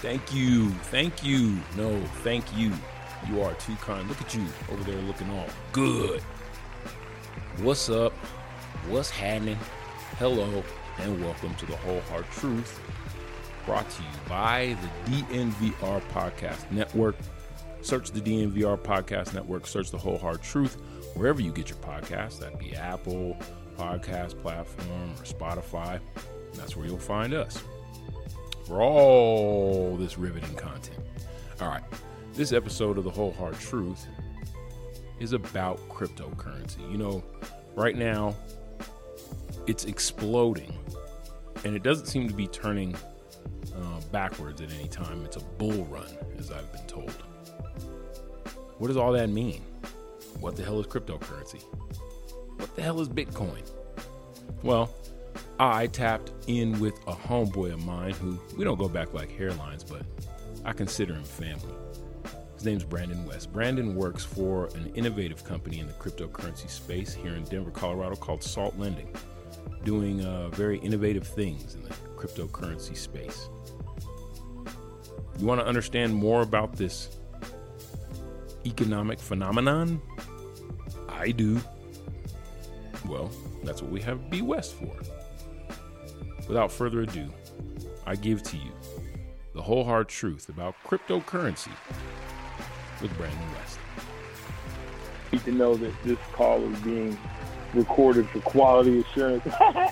Thank you. Thank you. No, thank you. You are too kind. Look at you over there looking all good. What's up? What's happening? Hello, and welcome to the Whole Hard Truth, brought to you by the DNVR Podcast Network. Search the DNVR Podcast Network, search the Whole Hard Truth, wherever you get your podcasts. That'd be Apple Podcast Platform or Spotify. And that's where you'll find us for all this riveting content. All right, this episode of the Whole Hard Truth is about cryptocurrency. You know, right now, it's exploding, and it doesn't seem to be turning backwards at any time. It's a bull run, as I've been told. What does all that mean? What the hell is cryptocurrency? What the hell is Bitcoin? Well, I tapped in with a homeboy of mine who, we don't go back like hairlines, but I consider him family. His name's Brandon West. Brandon works for an innovative company in the cryptocurrency space here in Denver, Colorado called Salt Lending, doing very innovative things in the cryptocurrency space. You want to understand more about this economic phenomenon? I do. Well, that's what we have B West for. Without further ado, I give to you the whole hard truth about cryptocurrency with Brandon West. You need to know that this call is being recorded for quality assurance.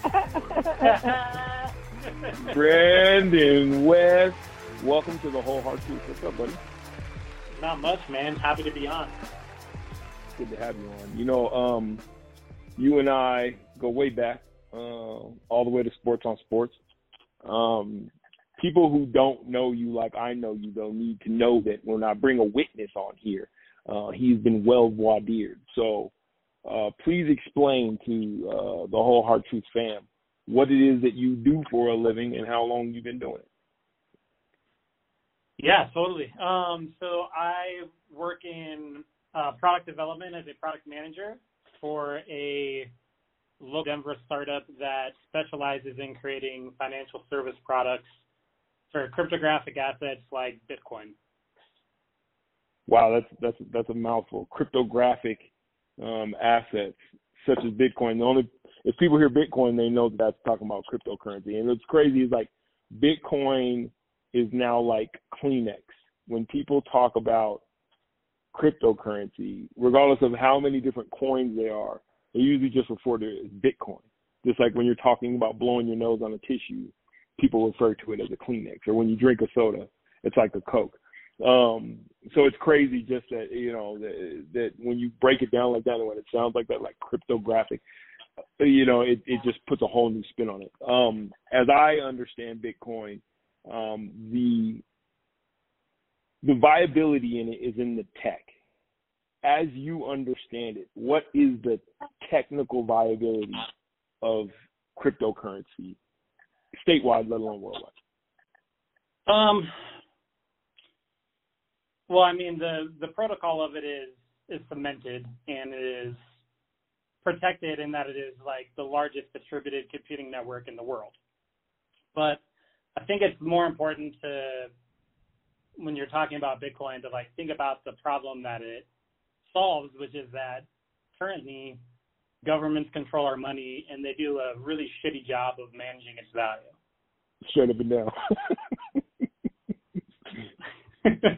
Brandon West, welcome to the Whole Hard Truth. What's up, buddy? Not much, man. Happy to be on. Good to have you on. You know, you and I go way back, all the way to Sports on Sports. People who don't know you like I know you, though, need to know that when I bring a witness on here, he's been well voir dired. So please explain to the Whole Hard Truth fam what it is that you do for a living and how long you've been doing it. Yeah, totally. So I work in product development as a product manager for a local Denver startup that specializes in creating financial service products for cryptographic assets like Bitcoin. Wow, that's a mouthful. Cryptographic assets such as Bitcoin. If people hear Bitcoin, they know that's talking about cryptocurrency. And what's crazy is like Bitcoin is now like Kleenex. When people talk about cryptocurrency, regardless of how many different coins there are, they usually just refer to it as Bitcoin. Just like when you're talking about blowing your nose on a tissue, people refer to it as a Kleenex. Or when you drink a soda, it's like a Coke. So it's crazy just that, you know, that when you break it down like that and when it sounds like that, like cryptographic, you know, it just puts a whole new spin on it. As I understand Bitcoin, the viability in it is in the tech. As you understand it, what is the technical viability of cryptocurrency, statewide, let alone worldwide? Well, I mean, the protocol of it is cemented and it is protected in that it is like the largest distributed computing network in the world. But I think it's more important to, when you're talking about Bitcoin, to like think about the problem that it solves, which is that currently governments control our money and they do a really shitty job of managing its value. Straight up and down.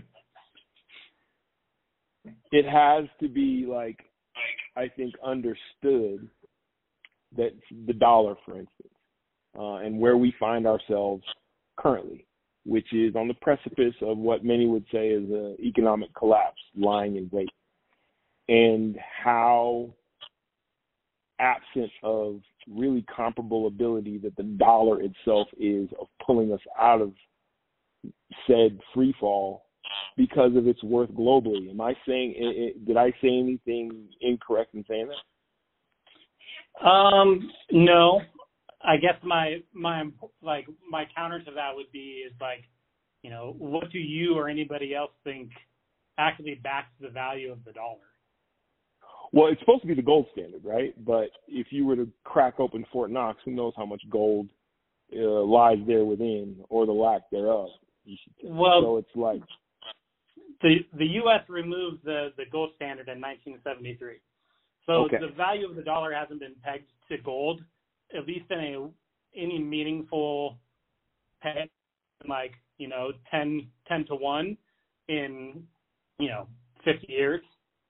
It has to be like, I think, understood that the dollar, for instance, and where we find ourselves currently, which is on the precipice of what many would say is an economic collapse lying in wait, and how absent of really comparable ability that the dollar itself is of pulling us out of said free fall because of its worth globally. Am I saying did I say anything incorrect in saying that? No. I guess my counter to that would be is like, you know, what do you or anybody else think actually backs the value of the dollar? Well, it's supposed to be the gold standard, right? But if you were to crack open Fort Knox, who knows how much gold lies there within, or the lack thereof. you should say. Well, so it's like the U.S. removed the gold standard in 1973. So okay. the value of the dollar hasn't been pegged to gold, at least in any meaningful peg, like, 10 to 1 in, 50 years.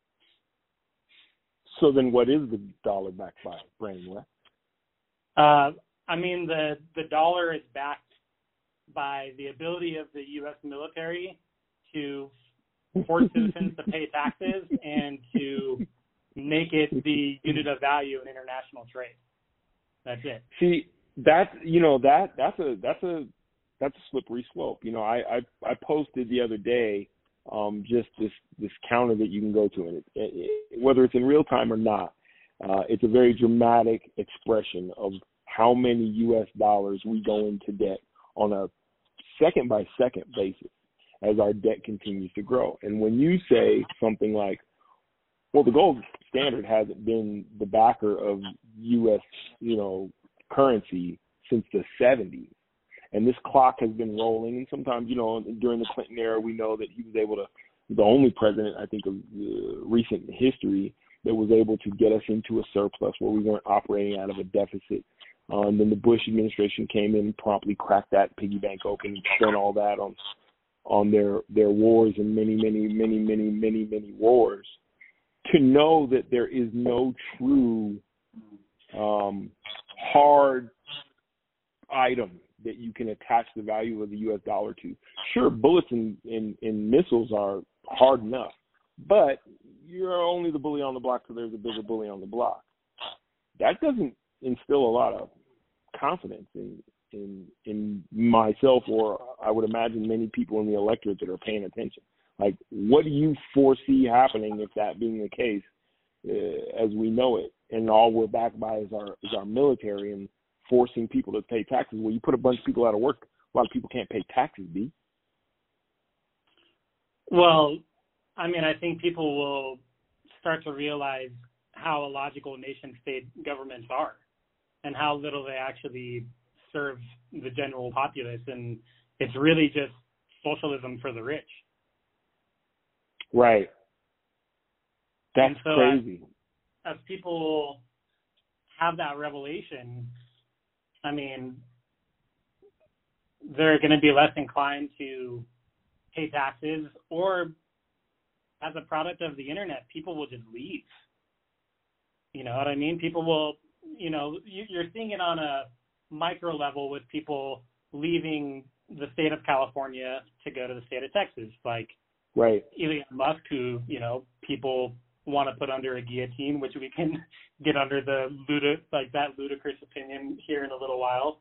So then what is the dollar backed by, Brandon West? I mean, the dollar is backed by the ability of the U.S. military to force citizens to pay taxes and to make it the unit of value in international trade. That's it. See, that's a slippery slope. I posted the other day just this counter that you can go to, and whether it's in real time or not, it's a very dramatic expression of how many U.S. dollars we go into debt on a second by second basis as our debt continues to grow. And when you say something like, well, the gold standard hasn't been the backer of U.S., currency since the 70s, and this clock has been rolling, and sometimes, during the Clinton era, we know that he was able to, the only president, I think, of recent history that was able to get us into a surplus where we weren't operating out of a deficit. And then the Bush administration came in and promptly cracked that piggy bank open and spent all that on their wars and many wars. To know that there is no true hard item that you can attach the value of the U.S. dollar to. Sure, bullets and missiles are hard enough, but you're only the bully on the block, so there's a bigger bully on the block. That doesn't instill a lot of confidence in myself, or I would imagine many people in the electorate that are paying attention. Like, what do you foresee happening if that being the case, as we know it, and all we're backed by is our military and forcing people to pay taxes? Well, you put a bunch of people out of work, a lot of people can't pay taxes, B. Well, I mean, I think people will start to realize how illogical nation-state governments are and how little they actually serve the general populace. And it's really just socialism for the rich. Right. That's so crazy. As people have that revelation, I mean, they're going to be less inclined to pay taxes, or as a product of the internet, people will just leave. You know what I mean? People will, you're seeing it on a micro level with people leaving the state of California to go to the state of Texas, like right. Elon Musk, who, people want to put under a guillotine, which we can get under that ludicrous opinion here in a little while.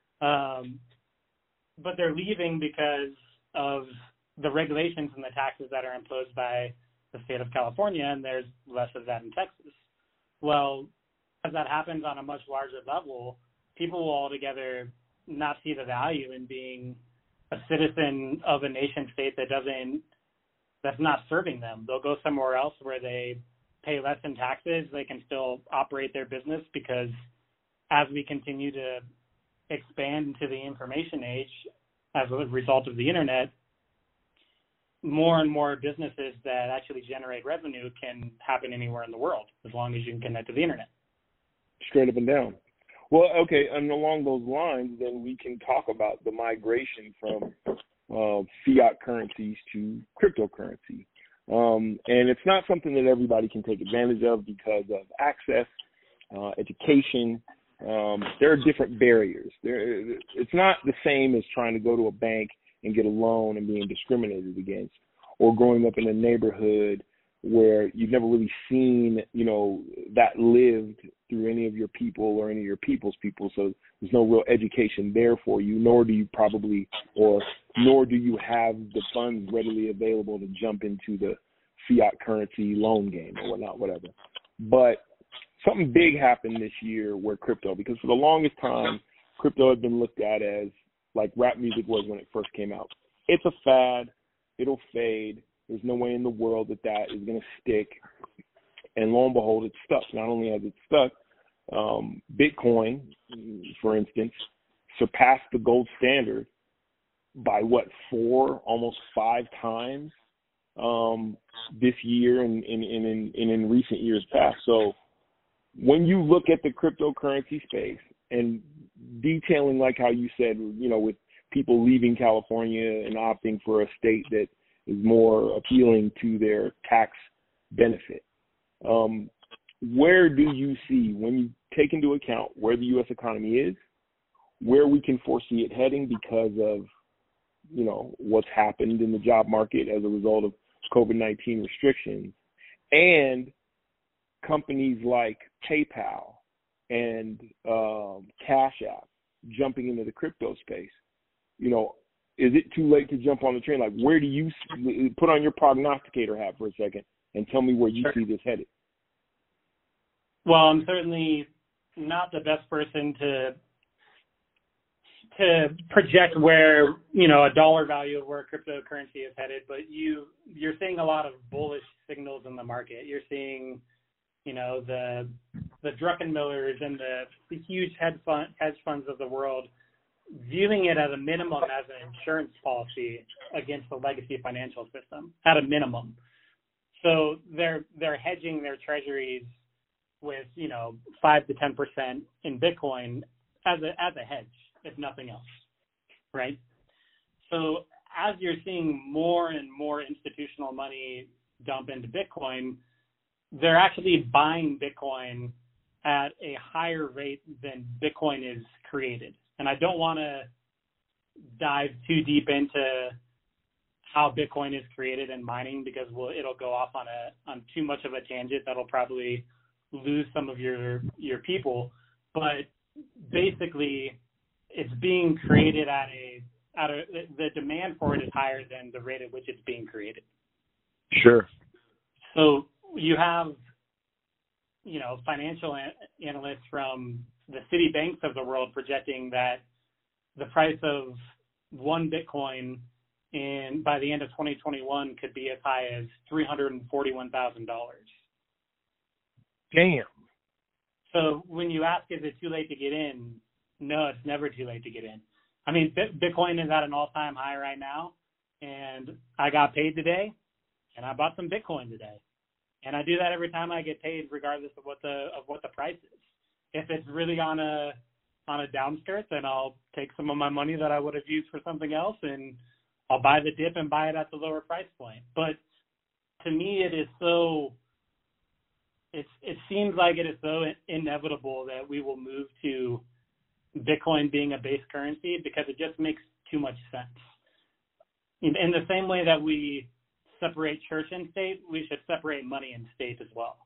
But they're leaving because of the regulations and the taxes that are imposed by the state of California, and there's less of that in Texas. Well, as that happens on a much larger level, people will altogether not see the value in being a citizen of a nation state that's not serving them. They'll go somewhere else where they pay less in taxes. They can still operate their business, because as we continue to expand into the information age as a result of the internet, more and more businesses that actually generate revenue can happen anywhere in the world, as long as you can connect to the internet. Straight up and down. Well, okay, and along those lines, then we can talk about the migration from fiat currencies to cryptocurrency. And it's not something that everybody can take advantage of because of access, education. There are different barriers. It's not the same as trying to go to a bank and get a loan and being discriminated against, or growing up in a neighborhood where you've never really seen, that lived through any of your people or any of your people's people. So there's no real education there for you, nor do you have the funds readily available to jump into the fiat currency loan game or whatnot, whatever. But something big happened this year where crypto, because for the longest time, crypto had been looked at as like rap music was when it first came out. It's a fad. It'll fade. There's no way in the world that is going to stick. And lo and behold, it's stuck. Not only has it stuck, Bitcoin, for instance, surpassed the gold standard by almost 5 times this year and in recent years past. So when you look at the cryptocurrency space and detailing, like how you said, with people leaving California and opting for a state that is more appealing to their tax benefit, where do you see, when you take into account where the U.S. economy is, where we can foresee it heading because of, what's happened in the job market as a result of COVID-19 restrictions, and companies like PayPal and Cash App jumping into the crypto space? Is it too late to jump on the train? Like, where do you put on your prognosticator hat for a second and tell me where you see this headed? Well, I'm certainly not the best person to project where, a dollar value of where cryptocurrency is headed, but you're seeing a lot of bullish signals in the market. You're seeing, the Druckenmillers and the huge hedge funds of the world viewing it at a minimum as an insurance policy against the legacy financial system, at a minimum. So they're hedging their treasuries with 5 to 10% in Bitcoin as a hedge, if nothing else, right? So as you're seeing more and more institutional money dump into Bitcoin, they're actually buying Bitcoin at a higher rate than Bitcoin is created. And I don't want to dive too deep into how Bitcoin is created and mining, because it'll go off on too much of a tangent that'll probably lose some of your people. But basically, it's being created the demand for it is higher than the rate at which it's being created. Sure. So you have, financial analysts from the city banks of the world projecting that the price of one Bitcoin by the end of 2021 could be as high as $341,000. Damn. So when you ask, is it too late to get in? No, it's never too late to get in. I mean, Bitcoin is at an all-time high right now, and I got paid today, and I bought some Bitcoin today. And I do that every time I get paid, regardless of what the price is. If it's really on a downskirt, then I'll take some of my money that I would have used for something else, and I'll buy the dip and buy it at the lower price point. But to me, it seems like it is so inevitable that we will move to Bitcoin being a base currency, because it just makes too much sense. In the same way that we separate church and state, we should separate money and state as well.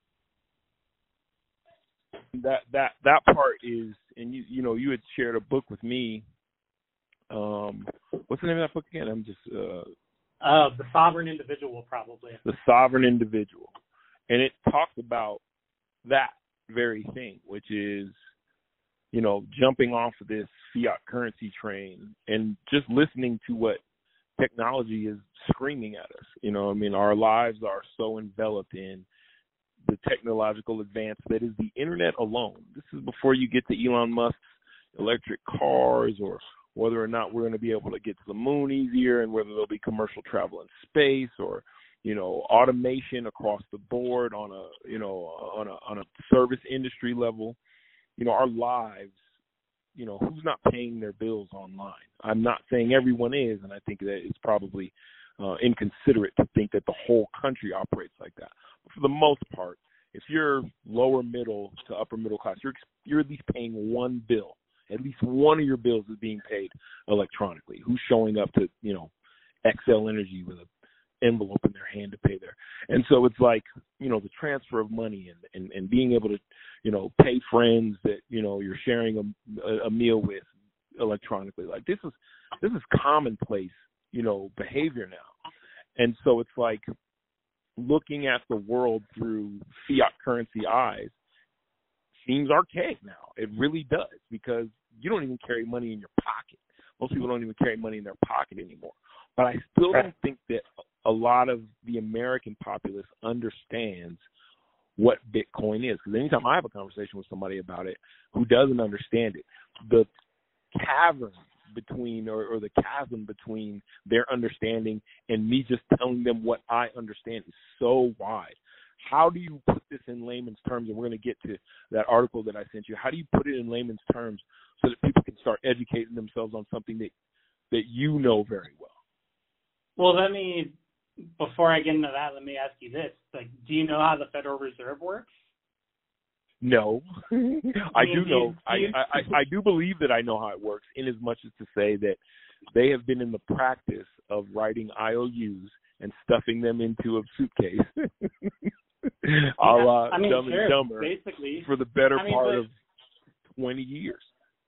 That part is, and you had shared a book with me. What's the name of that book again? I'm just The Sovereign Individual, probably. The Sovereign Individual, and it talks about that very thing, which is, jumping off of this fiat currency train and just listening to what technology is screaming at us. Our lives are so enveloped in the technological advance that is the internet alone. This is before you get to Elon Musk's electric cars, or whether or not we're going to be able to get to the moon easier, and whether there'll be commercial travel in space, or automation across the board on a service industry level. Our lives, who's not paying their bills online? I'm not saying everyone is, and I think that it's probably inconsiderate to think that the whole country operates like that. But for the most part, if you're lower middle to upper middle class, you're at least paying one bill. At least one of your bills is being paid electronically. Who's showing up to, Xcel Energy with an envelope in their hand to pay there? And so it's like, the transfer of money and being able to, pay friends that, you're sharing a meal with electronically. Like this is commonplace, behavior now. And so it's like looking at the world through fiat currency eyes seems archaic now. It really does, because you don't even carry money in your pocket. Most people don't even carry money in their pocket anymore. But I still don't think that a lot of the American populace understands what Bitcoin is. Because anytime I have a conversation with somebody about it who doesn't understand it, the caverns between, or the chasm between their understanding and me just telling them what I understand is so wide. How do you put this in layman's terms? And we're going to get to that article that I sent you. How do you put it in layman's terms so that people can start educating themselves on something that you know very well? Well, before I get into that, let me ask you this. Like, do you know how the Federal Reserve works? No. I do know. I do believe that I know how it works, in as much as to say that they have been in the practice of writing IOUs and stuffing them into a suitcase. A la Dumb and Dumber, basically, for the better part of 20 years.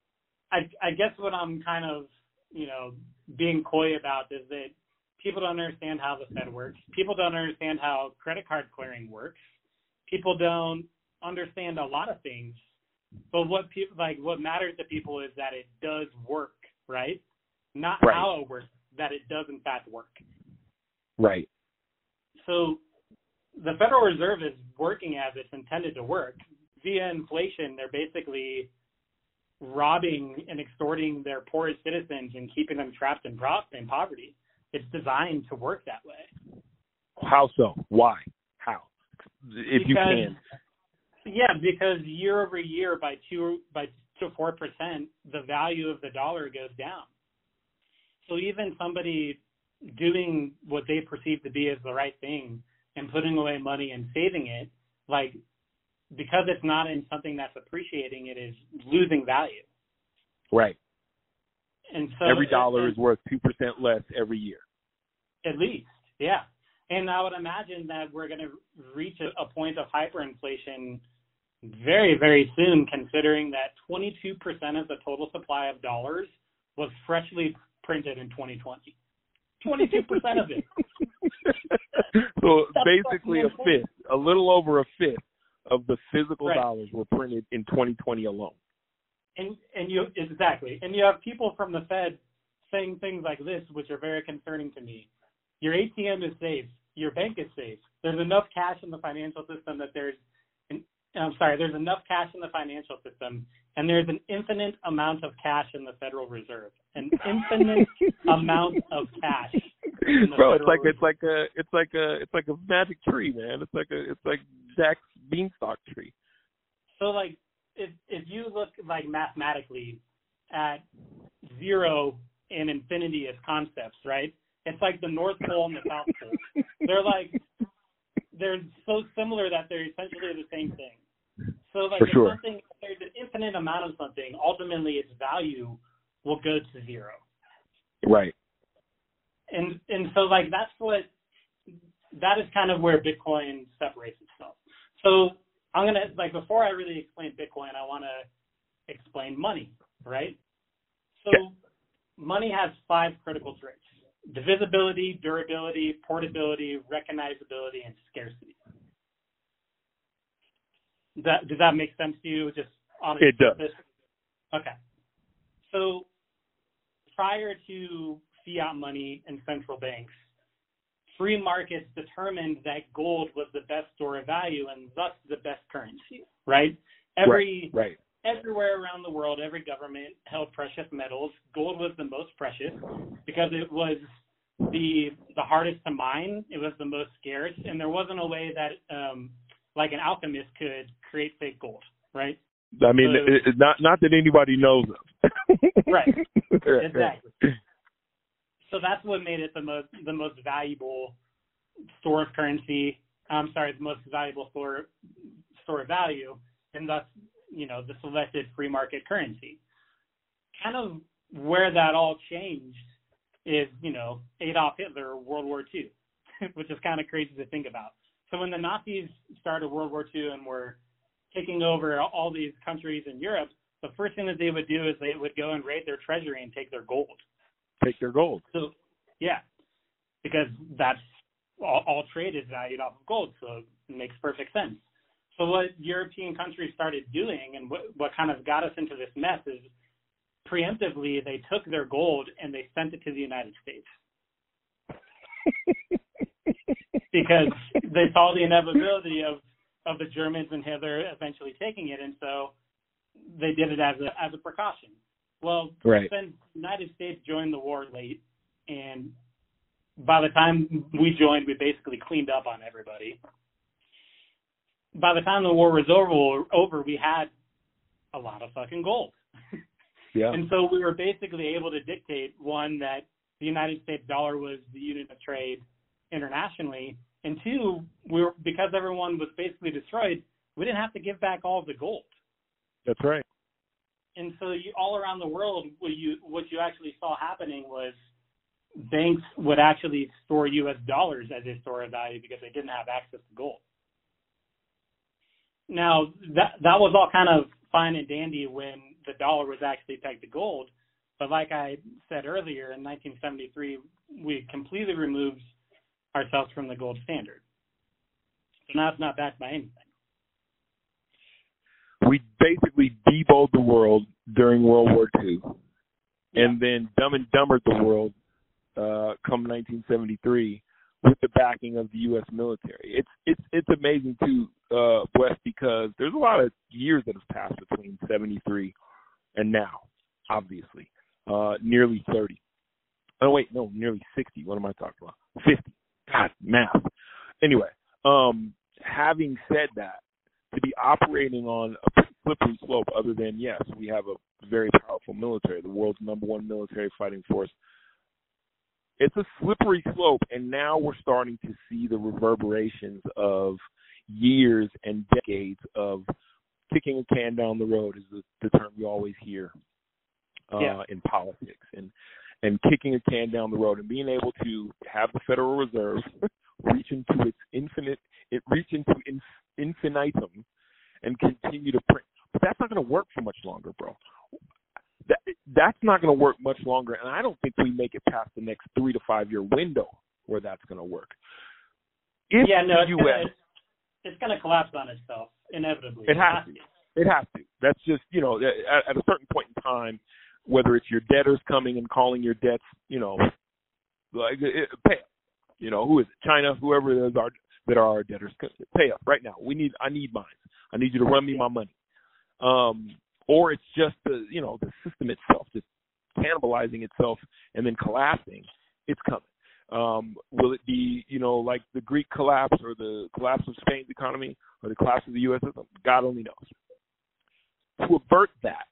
I guess what I'm kind of, being coy about is that people don't understand how the Fed works. People don't understand how credit card clearing works. People don't understand a lot of things. But what matters to people is that it does work, right? Not right. How it works, that it does in fact work. Right. So the Federal Reserve is working as it's intended to work. Via inflation, they're basically robbing and extorting their poorest citizens and keeping them trapped in poverty. It's designed to work that way. How so? Why? How? If you can. Yeah, because year over year, by 2 to 4%, the value of the dollar goes down. So even somebody doing what they perceive to be as the right thing and putting away money and saving it, because it's not in something that's appreciating, it is losing value. Right. And so every dollar is worth 2% less every year. At least, yeah. And I would imagine that we're going to reach a point of hyperinflation very, very soon, considering that 22% of the total supply of dollars was freshly printed in 2020. 22% of it. So basically a little over a fifth of the physical dollars were printed in 2020 alone. And you exactly. And you have people from the Fed saying things like this, which are very concerning to me. Your ATM is safe. Your bank is safe. There's enough cash in the financial system there's enough cash in the financial system, and there's an infinite amount of cash in the Federal Reserve. An infinite amount of cash. Bro, it's like a magic tree, man. It's like Jack's beanstalk tree. So if you look mathematically at zero and infinity as concepts, right? It's like the North Pole and the South Pole. They're so similar that they're essentially the same thing. So there's an infinite amount of something, ultimately its value will go to zero. Right. And so that is kind of where Bitcoin separates itself. So I'm going to, before I really explain Bitcoin, I want to explain money, right? So money has 5 critical traits: divisibility, durability, portability, recognizability, and scarcity. Does that make sense to you? Just on it does. Okay. So prior to fiat money and central banks, free markets determined that gold was the best store of value and thus the best currency, right? Everywhere around the world, every government held precious metals. Gold was the most precious because it was the hardest to mine. It was the most scarce, and there wasn't a way that an alchemist could create fake gold, right? I mean, not that anybody knows of. Right. Exactly. So that's what made it the most valuable store of currency. The most valuable store of value, and thus, the selected free market currency. Kind of where that all changed is, Adolf Hitler, World War II, which is kind of crazy to think about. So when the Nazis started World War II and were taking over all these countries in Europe, the first thing that they would do is they would go and raid their treasury and take their gold. So, yeah, because that's all trade is valued off of gold, so it makes perfect sense. So what European countries started doing and what kind of got us into this mess is preemptively they took their gold and they sent it to the United States. Because they saw the inevitability of the Germans and Hitler eventually taking it, and so they did it as a precaution. Well, right. since the United States joined the war late, and by the time we joined, we basically cleaned up on everybody. By the time the war was over, we had a lot of fucking gold. Yeah. And so we were basically able to dictate, one, that the United States dollar was the unit of trade internationally, and two, because everyone was basically destroyed, we didn't have to give back all of the gold. That's right. And so all around the world, what you actually saw happening was banks would actually store U.S. dollars as a store of value because they didn't have access to gold. Now, that was all kind of fine and dandy when the dollar was actually pegged to gold. But like I said earlier, in 1973, we completely removed ourselves from the gold standard. So now it's not backed by anything. We basically debowed the world during World War II, and then Dumb and Dumbered the world come 1973 with the backing of the U.S. military. It's amazing too, Wes, because there's a lot of years that have passed between 73 and now, obviously, nearly 30. Oh wait, no, nearly 60. What am I talking about? 50. God, math. Anyway, having said that, to be operating on a slippery slope, other than, yes, we have a very powerful military, the world's #1 military fighting force. It's a slippery slope, and now we're starting to see the reverberations of years and decades of kicking a can down the road, is the term you always hear in politics, and kicking a can down the road, and being able to have the Federal Reserve reach into infinitum and continue to print. But that's not going to work for much longer, bro. That's not going to work much longer, and I don't think we make it past the next 3 to 5 year window where that's going to work. It's going to collapse on itself inevitably. It has to. It has to. That's just, at a certain point in time, whether it's your debtors coming and calling your debts, pay up. Who is it? China, whoever it is that are our debtors, pay up right now. I need mine. I need you to run me my money. Or it's just the system itself just cannibalizing itself and then collapsing. It's coming. Will it be, like the Greek collapse or the collapse of Spain's economy or the collapse of the U.S. system? God only knows. To avert that,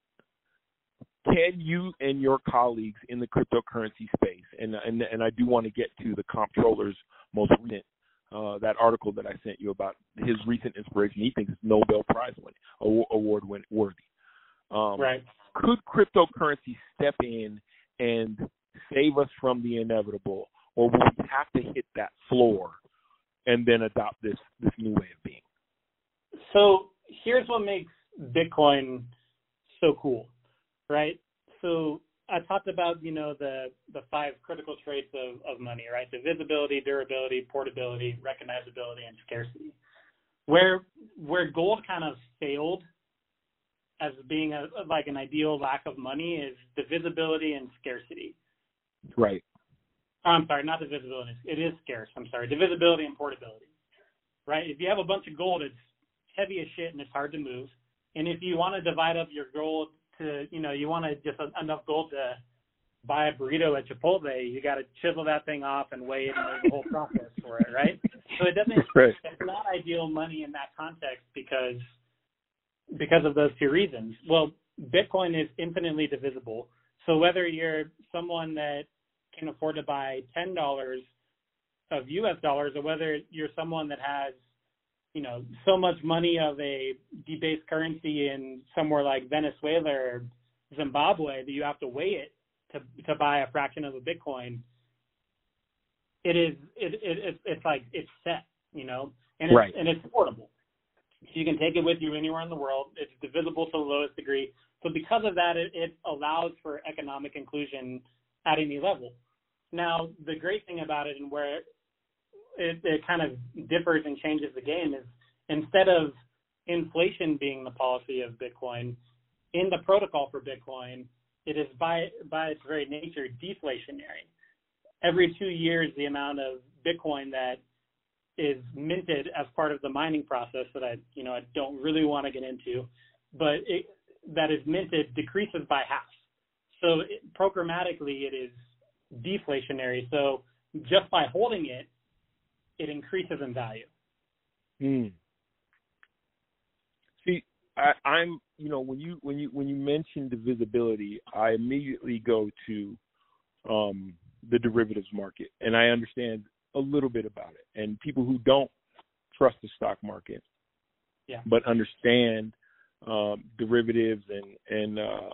can you and your colleagues in the cryptocurrency space, and I do want to get to the comptroller's most recent, that article that I sent you about his recent inspiration, he thinks it's Nobel Prize award worthy. Right. Could cryptocurrency step in and save us from the inevitable, or will we have to hit that floor and then adopt this new way of being? So here's what makes Bitcoin so cool, right? So I talked about, the 5 critical traits of money, right? Divisibility, durability, portability, recognizability, and scarcity. Where gold kind of failed as being an ideal lack of money is divisibility and scarcity. Right. I'm sorry, not divisibility. It is scarce. I'm sorry. Divisibility and portability, right? If you have a bunch of gold, it's heavy as shit and it's hard to move. And if you want to divide up your gold to, you want to just enough gold to buy a burrito at Chipotle, you got to chisel that thing off and weigh it and there's a whole process for it, right? So it doesn't, right. It's not ideal money in that context because of those 2 reasons. Well, Bitcoin is infinitely divisible. So whether you're someone that can afford to buy $10 of U.S. dollars or whether you're someone that has, so much money of a debased currency in somewhere like Venezuela or Zimbabwe that you have to weigh it to buy a fraction of a Bitcoin, it's like it's set, and right. And it's portable. So you can take it with you anywhere in the world. It's divisible to the lowest degree. So because of that, it allows for economic inclusion at any level. Now, the great thing about it and where it kind of differs and changes the game is instead of inflation being the policy of Bitcoin, in the protocol for Bitcoin, it is by its very nature deflationary. Every 2 years, the amount of Bitcoin that is minted as part of the mining process that I don't really want to get into, but that is minted decreases by half. So programmatically, it is deflationary. So just by holding it, it increases in value. See, I'm when you mention divisibility, I immediately go to the derivatives market, and I understand a little bit about it. And people who don't trust the stock market, but understand derivatives and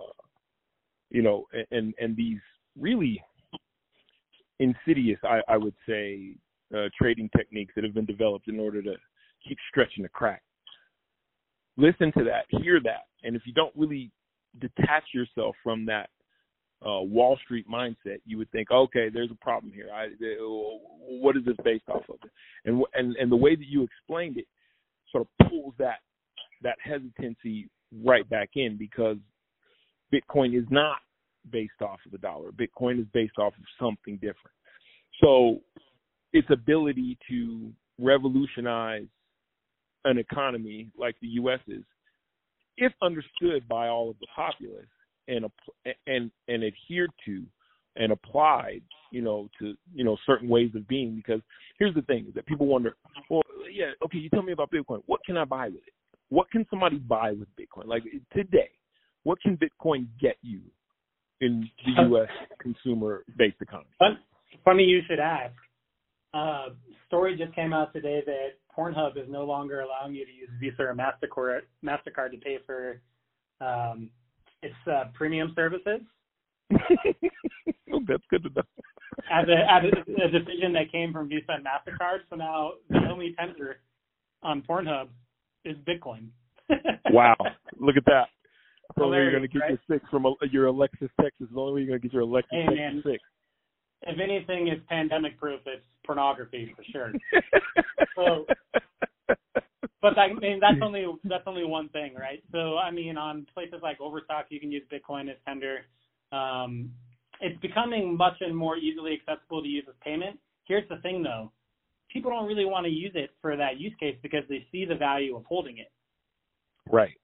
these really insidious, I would say, trading techniques that have been developed in order to keep stretching the crack. Listen to that, hear that, and if you don't really detach yourself from that Wall Street mindset, you would think, okay, there's a problem here. What is this based off of? And the way that you explained it sort of pulls that hesitancy right back in, because Bitcoin is not based off of the dollar. Bitcoin is based off of something different. So its ability to revolutionize an economy like the U.S. is, if understood by all of the populace and adhered to and applied, to certain ways of being. Because here's the thing: is that people wonder, well, yeah, okay, you tell me about Bitcoin. What can I buy with it? What can somebody buy with Bitcoin? Like today, what can Bitcoin get you in the U.S. consumer-based economy? Funny you should ask. Story just came out today that Pornhub is no longer allowing you to use Visa or MasterCard to pay for its premium services. Oh, that's good to know. As a decision that came from Visa and MasterCard, so now the only tender on Pornhub is Bitcoin. Wow, look at that. The only way you're going to get right? your 6 from your Alexis Texas. The only way you're going to get your Alexis Texas 6. If anything is pandemic proof, it's pornography for sure. So, but that's only one thing, right? So I mean, on places like Overstock, you can use Bitcoin as tender. It's becoming much and more easily accessible to use as payment. Here's the thing, though: people don't really want to use it for that use case because they see the value of holding it. Right.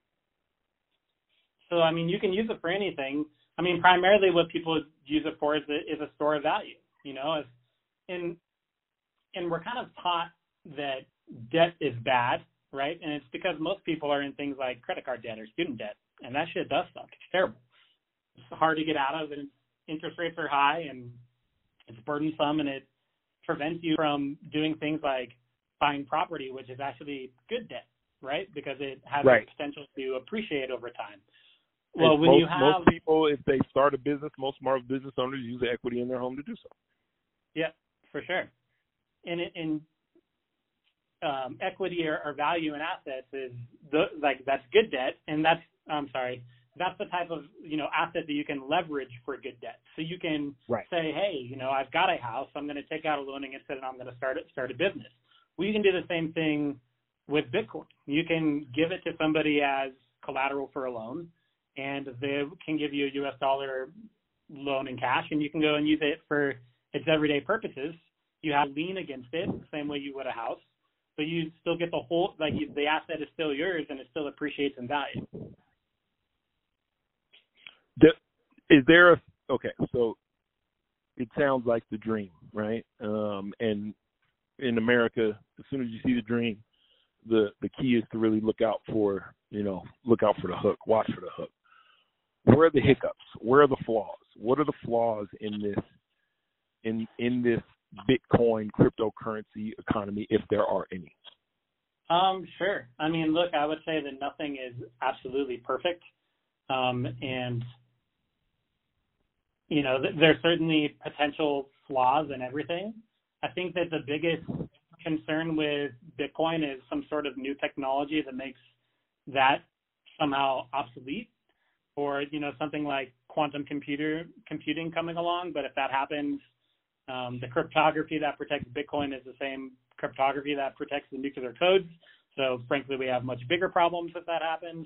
So I mean, you can use it for anything. I mean, primarily what people use it for is a store of value, and we're kind of taught that debt is bad, right? And it's because most people are in things like credit card debt or student debt, and that shit does suck. It's terrible. It's hard to get out of, and interest rates are high, and it's burdensome, and it prevents you from doing things like buying property, which is actually good debt, right? Because it has the potential to appreciate over time. Well, when most people, if they start a business, most smart business owners use the equity in their home to do so. Yeah, for sure. And equity or value in assets is that's good debt, and that's the type of asset that you can leverage for good debt. So you can say, hey, I've got a house, I'm going to take out a loan against it, and I'm going to start a business. Well, you can do the same thing with Bitcoin. You can give it to somebody as collateral for a loan, and they can give you a U.S. dollar loan in cash, and you can go and use it for its everyday purposes. You have lien against it, the same way you would a house, but you still get the whole, the asset is still yours, and it still appreciates in value. So it sounds like the dream, right? And in America, as soon as you see the dream, the key is to really look out for the hook, watch for the hook. Where are the hiccups? Where are the flaws? What are the flaws in this Bitcoin cryptocurrency economy, if there are any? Sure. I mean, look, I would say that nothing is absolutely perfect. And there's certainly potential flaws in everything. I think that the biggest concern with Bitcoin is some sort of new technology that makes that somehow obsolete, or something like quantum computing coming along. But if that happens, the cryptography that protects Bitcoin is the same cryptography that protects the nuclear codes. So frankly, we have much bigger problems if that happens.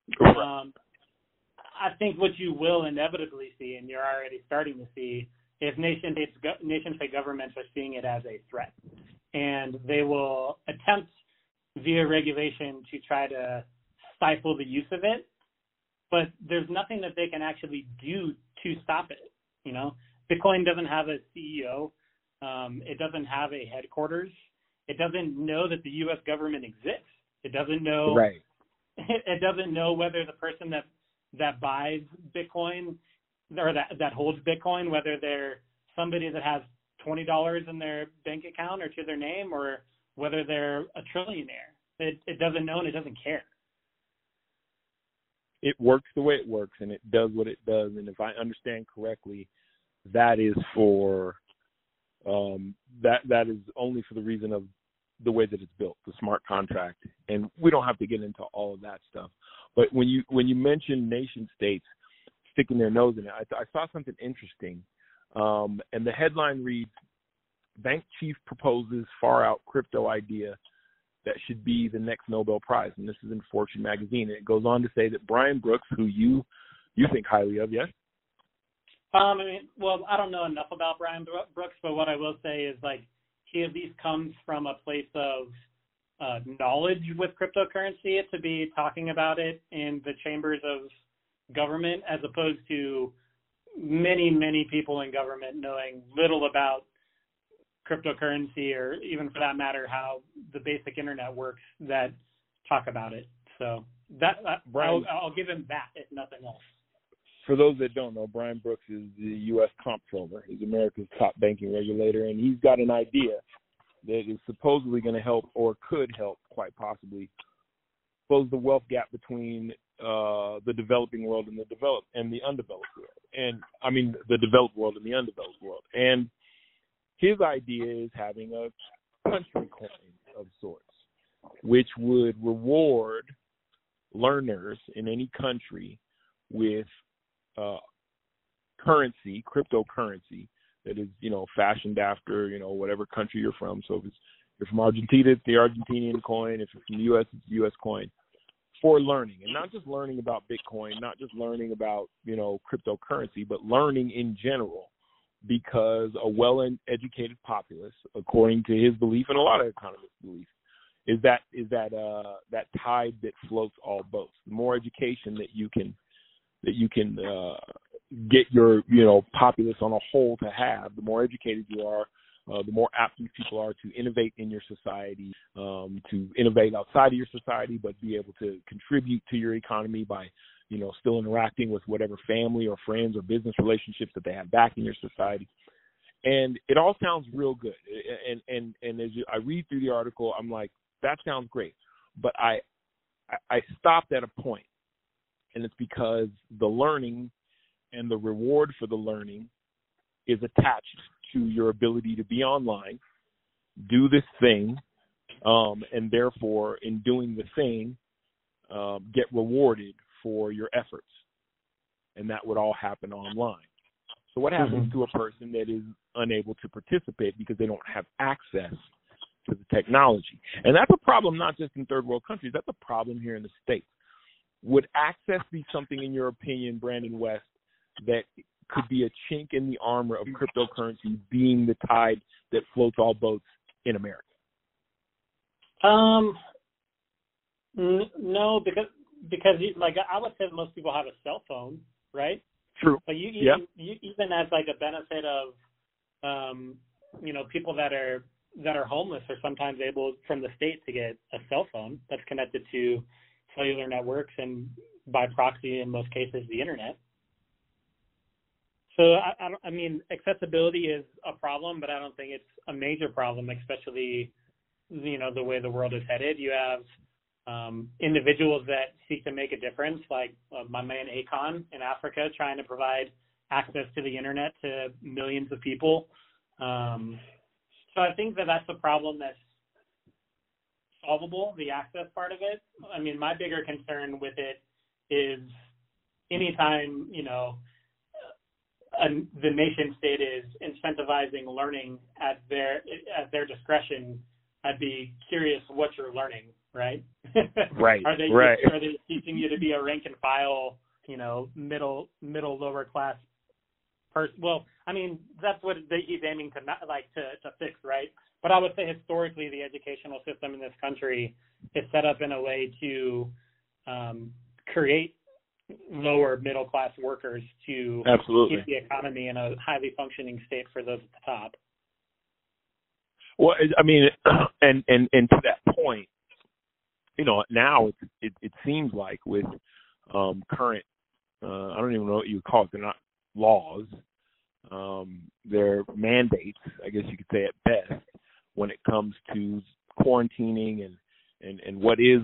I think what you will inevitably see, and you're already starting to see, is nation-state governments are seeing it as a threat, and they will attempt via regulation to try to stifle the use of it. but there's nothing that they can actually do to stop it. You know, Bitcoin doesn't have a CEO. It doesn't have a headquarters. It doesn't know that the U.S. government exists. It doesn't know. Right. It doesn't know whether the person that buys Bitcoin or that holds Bitcoin, whether they're somebody that has $20 in their bank account or to their name, or whether they're a trillionaire. It doesn't know, and it doesn't care. It works the way it works, and it does what it does. And if I understand correctly, that is for that is only for the reason of the way that it's built, the smart contract. And we don't have to get into all of that stuff. But when you mention nation states sticking their nose in it, I saw something interesting. And the headline reads, "Bank chief proposes far-out crypto idea that should be the next Nobel Prize." And this is in Fortune magazine. And it goes on to say that Brian Brooks, who you think highly of, yes? I don't know enough about Brian Brooks, but what I will say is, like, he at least comes from a place of knowledge with cryptocurrency to be talking about it in the chambers of government, as opposed to many, many people in government knowing little about cryptocurrency, or even for that matter, how the basic internet works, that talk about it. So that I'll give him that, if nothing else. For those that don't know, Brian Brooks is the U.S. comptroller. He's America's top banking regulator, and he's got an idea that is supposedly going to help, or could help, quite possibly, close the wealth gap between the developing world and the undeveloped world. And I mean, the developed world and the undeveloped world. And his idea is having a country coin of sorts, which would reward learners in any country with currency, cryptocurrency, that is, fashioned after, whatever country you're from. So if you're from Argentina, it's the Argentinian coin. If you're from the U.S., it's the U.S. coin, for learning. And not just learning about Bitcoin, not just learning about, cryptocurrency, but learning in general, because a well-educated populace, according to his belief and a lot of economists' belief, is that tide that floats all boats. The more education that you can get your populace on a whole to have, the more educated you are, the more apt these people are to innovate in your society, to innovate outside of your society, but be able to contribute to your economy by still interacting with whatever family or friends or business relationships that they have back in your society. And it all sounds real good. And as I read through the article, I'm like, that sounds great. But I stopped at a point. And it's because the learning and the reward for the learning is attached to your ability to be online, do this thing, and therefore, in doing the thing, get rewarded for your efforts. And that would all happen online. So what happens to a person that is unable to participate because they don't have access to the technology? And that's a problem not just in third world countries. That's a problem here in the States. Would access be something, in your opinion, Brandon West, that could be a chink in the armor of cryptocurrency being the tide that floats all boats in America? No, because like I would say most people have a cell phone, right? True. But you even as like a benefit of people that are homeless are sometimes able from the state to get a cell phone that's connected to cellular networks and by proxy, in most cases, the internet. So, I mean, accessibility is a problem, but I don't think it's a major problem, especially, the way the world is headed. You have individuals that seek to make a difference, like my man Akon in Africa, trying to provide access to the internet to millions of people. So I think that's a problem that's solvable, the access part of it. I mean, my bigger concern with it is anytime, the nation state is incentivizing learning at their discretion, I'd be curious what you're learning, right? Right. Are they teaching you to be a rank and file, middle lower class person? Well, I mean, that's what he's aiming to fix, right? But I would say historically, the educational system in this country is set up in a way to create lower middle class workers to Absolutely. keep the economy in a highly functioning state for those at the top. Well, I mean, and to that point, now it seems like with current, I don't even know what you would call it. They're not laws. They're mandates, I guess you could say at best, when it comes to quarantining and what is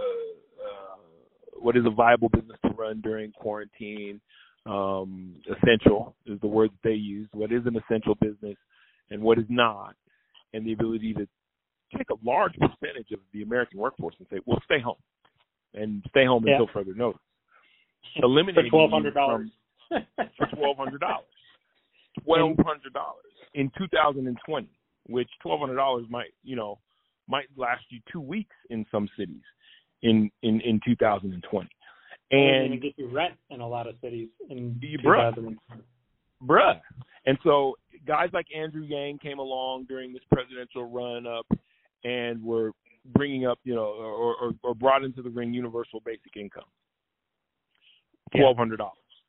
a viable business to run during quarantine. Essential is the word that they use. What is an essential business and what is not, and the ability to take a large percentage of the American workforce and say, well, stay home until further notice. Eliminating for $1,200. For $1,200. $1,200 in 2020, which $1,200 might last you 2 weeks in some cities in 2020. And even get you rent in a lot of cities in 2020. Bruh. And so guys like Andrew Yang came along during this presidential run-up and were bringing up, or brought into the ring universal basic income. $1,200.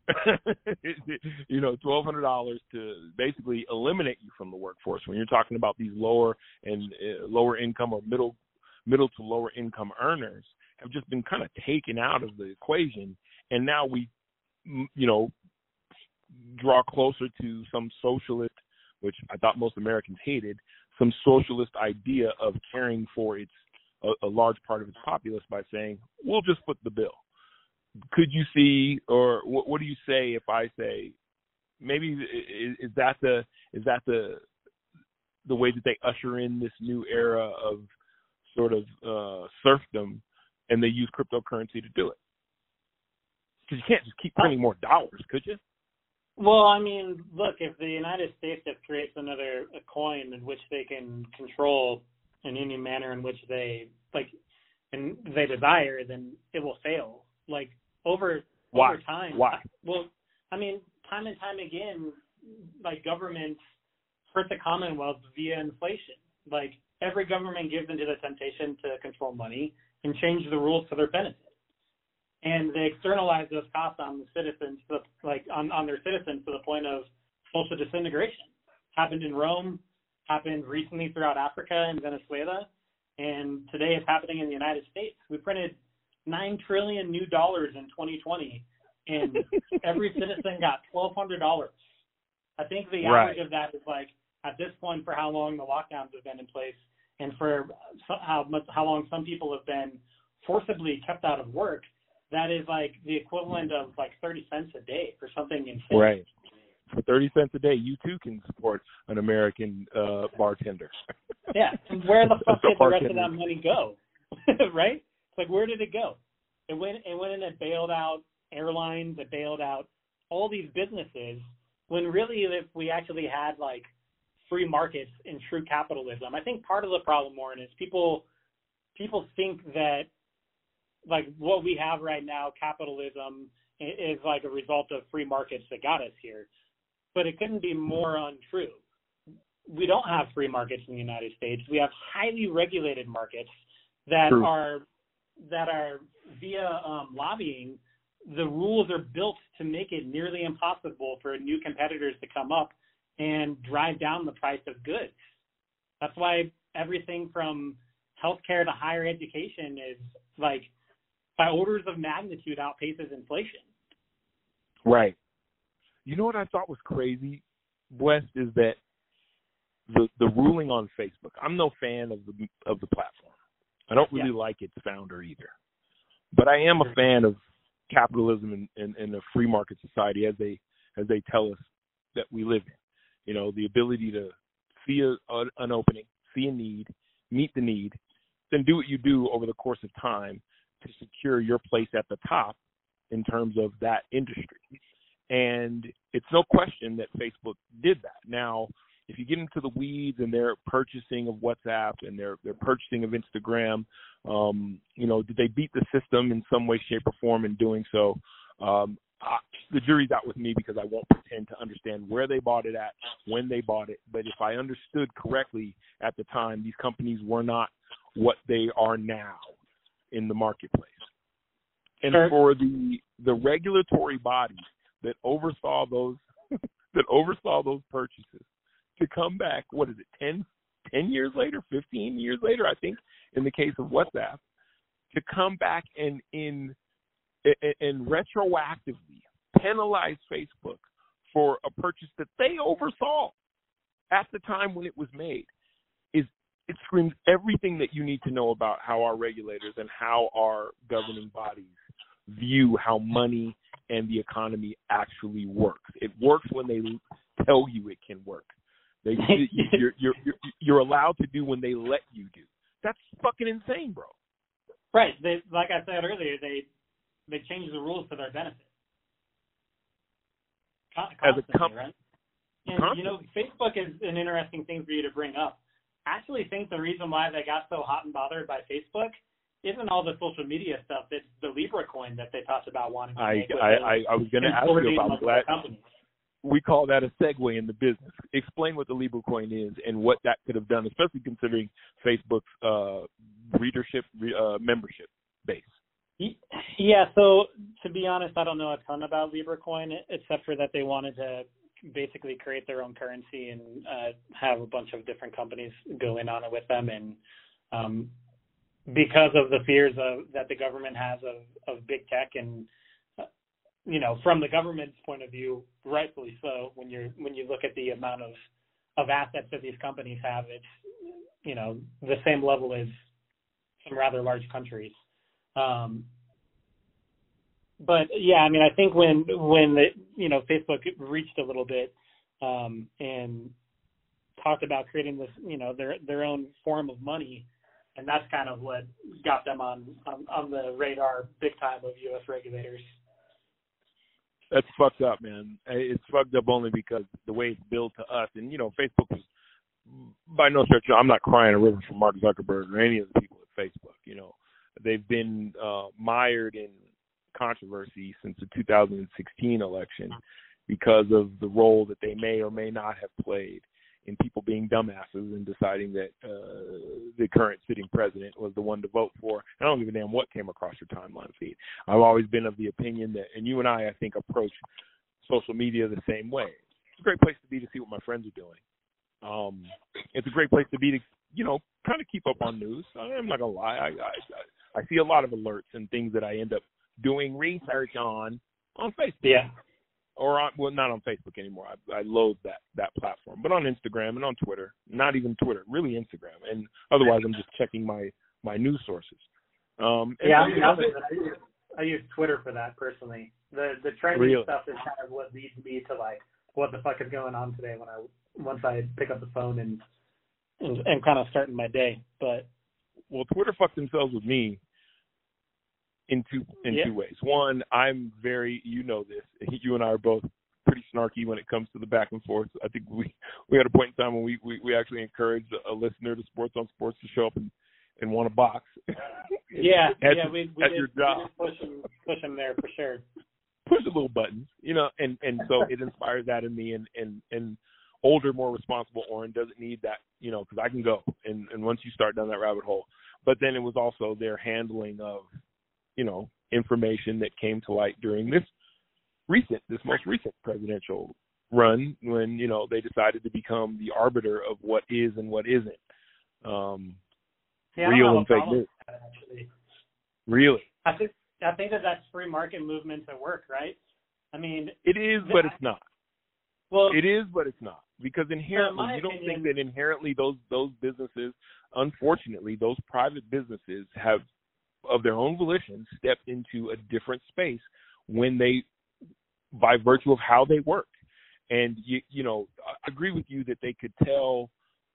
$1,200 to basically eliminate you from the workforce. When you're talking about these lower income or middle to lower income earners have just been kind of taken out of the equation, and now we, draw closer to some socialist, which I thought most Americans hated, some socialist idea of caring for a large part of its populace by saying, we'll just foot the bill. Could you see, or what do you say if I say, maybe is that the way that they usher in this new era of sort of serfdom, and they use cryptocurrency to do it? Because you can't just keep printing more dollars, could you? Well, I mean, look, if the United States creates another coin in which they can control in any manner in which they desire, then it will fail. Like over time. Why? Well, I mean, time and time again, like governments hurt the Commonwealth via inflation. Like every government gives into the temptation to control money and change the rules to their benefit. And they externalize those costs on the citizens, on their citizens to the point of social disintegration. Happened in Rome, happened recently throughout Africa and Venezuela, and today it's happening in the United States. We printed $9 trillion new dollars in 2020, and every citizen got $1,200. I think the average of that is at this point, for how long the lockdowns have been in place, and for how long some people have been forcibly kept out of work, that is the equivalent of 30 cents a day for something insane. Right. For 30 cents a day, you too can support an American bartender. Yeah. And where the fuck did the rest of that money go? Right? It's where did it go? It went and it bailed out airlines, it bailed out all these businesses, when really if we actually had free markets and true capitalism. I think part of the problem, Warren, is people think that what we have right now, capitalism, is a result of free markets that got us here. But it couldn't be more untrue. We don't have free markets in the United States. We have highly regulated markets that are via lobbying. The rules are built to make it nearly impossible for new competitors to come up and drive down the price of goods. That's why everything from healthcare to higher education is by orders of magnitude outpaces inflation. Right. You know what I thought was crazy, West, is that the ruling on Facebook. I'm no fan of the platform. I don't really like its founder either. But I am a fan of capitalism and a free market society as they tell us that we live in. The ability to see an opening, see a need, meet the need, then do what you do over the course of time to secure your place at the top in terms of that industry. And it's no question that Facebook did that. Now, if you get into the weeds and their purchasing of WhatsApp and their purchasing of Instagram, did they beat the system in some way, shape, or form in doing so? The jury's out with me because I won't pretend to understand where they bought it at, when they bought it. But if I understood correctly at the time, these companies were not what they are now in the marketplace. And for the regulatory bodies that oversaw those purchases to come back, what is it, 10 years later, 15 years later, I think, in the case of WhatsApp, to come back and retroactively penalize Facebook for a purchase that they oversaw at the time when it was made, it screams everything that you need to know about how our regulators and how our governing bodies view how money and the economy actually works. It works when they tell you it can work. You're allowed to do when they let you do. That's fucking insane, bro. Right. Like I said earlier, they change the rules to their benefit. Constantly, right? And, Facebook is an interesting thing for you to bring up. I actually think the reason why they got so hot and bothered by Facebook isn't all the social media stuff. It's the Libra coin that they talked about wanting to make. I was going to ask you about that. We call that a segue in the business. Explain what the Libra coin is and what that could have done, especially considering Facebook's readership membership base. Yeah, so to be honest, I don't know a ton about Libra coin, except for that they wanted to basically create their own currency and have a bunch of different companies go in on it with them. And because of the fears that the government has of big tech, and from the government's point of view, rightfully so, when you look at the amount of assets that these companies have, it's the same level as some rather large countries. But yeah, I mean, I think when Facebook reached a little bit and talked about creating this, their own form of money, and that's kind of what got them on the radar big time of U.S. regulators. That's fucked up, man. It's fucked up only because the way it's billed to us, and Facebook was by no stretch. I'm not crying a river for Mark Zuckerberg or any of the people at Facebook. They've been mired in controversy since the 2016 election because of the role that they may or may not have played in people being dumbasses and deciding that the current sitting president was the one to vote for. I don't give a damn what came across your timeline feed. I've always been of the opinion that, and you and I think, approach social media the same way. It's a great place to be to see what my friends are doing. It's a great place to be to, kind of keep up on news. I'm not going to lie. I see a lot of alerts and things that I end up doing research on Facebook. Yeah. Or not on Facebook anymore. I loathe that platform. But on Instagram and on Twitter, not even Twitter, really Instagram. And otherwise, I'm just checking my news sources. I use Twitter for that personally. The trending stuff is kind of what leads me to what the fuck is going on today once I pick up the phone and kind of starting my day. But Twitter fucked themselves with me in two ways. One, I'm very, this, you and I are both pretty snarky when it comes to the back and forth. I think we had a point in time when we actually encouraged a listener to Sports on Sports to show up and want a box. We did push him there for sure. Push the little buttons, and so it inspires that in me, and older, more responsible Oren doesn't need that, because I can go, and once you start down that rabbit hole. But then it was also their handling of, information that came to light during this most recent presidential run when, they decided to become the arbiter of what is and what isn't real and fake news. Really? I think that's free market movements at work, right? I mean, it is, but it's not. Well, it is, but it's not, because inherently, you don't think that inherently those businesses, unfortunately, those private businesses have, of their own volition, stepped into a different space when they, by virtue of how they work. And I agree with you that they can tell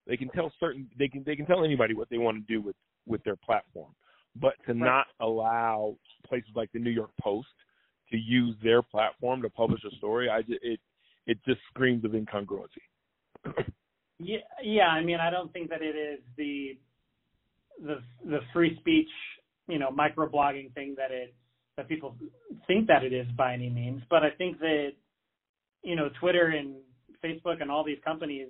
anybody what they want to do with their platform, but to not allow places like the New York Post to use their platform to publish a story, it just screams of incongruency. Yeah. I mean, I don't think that it is the free speech, microblogging thing that people think that it is by any means. But I think that, Twitter and Facebook and all these companies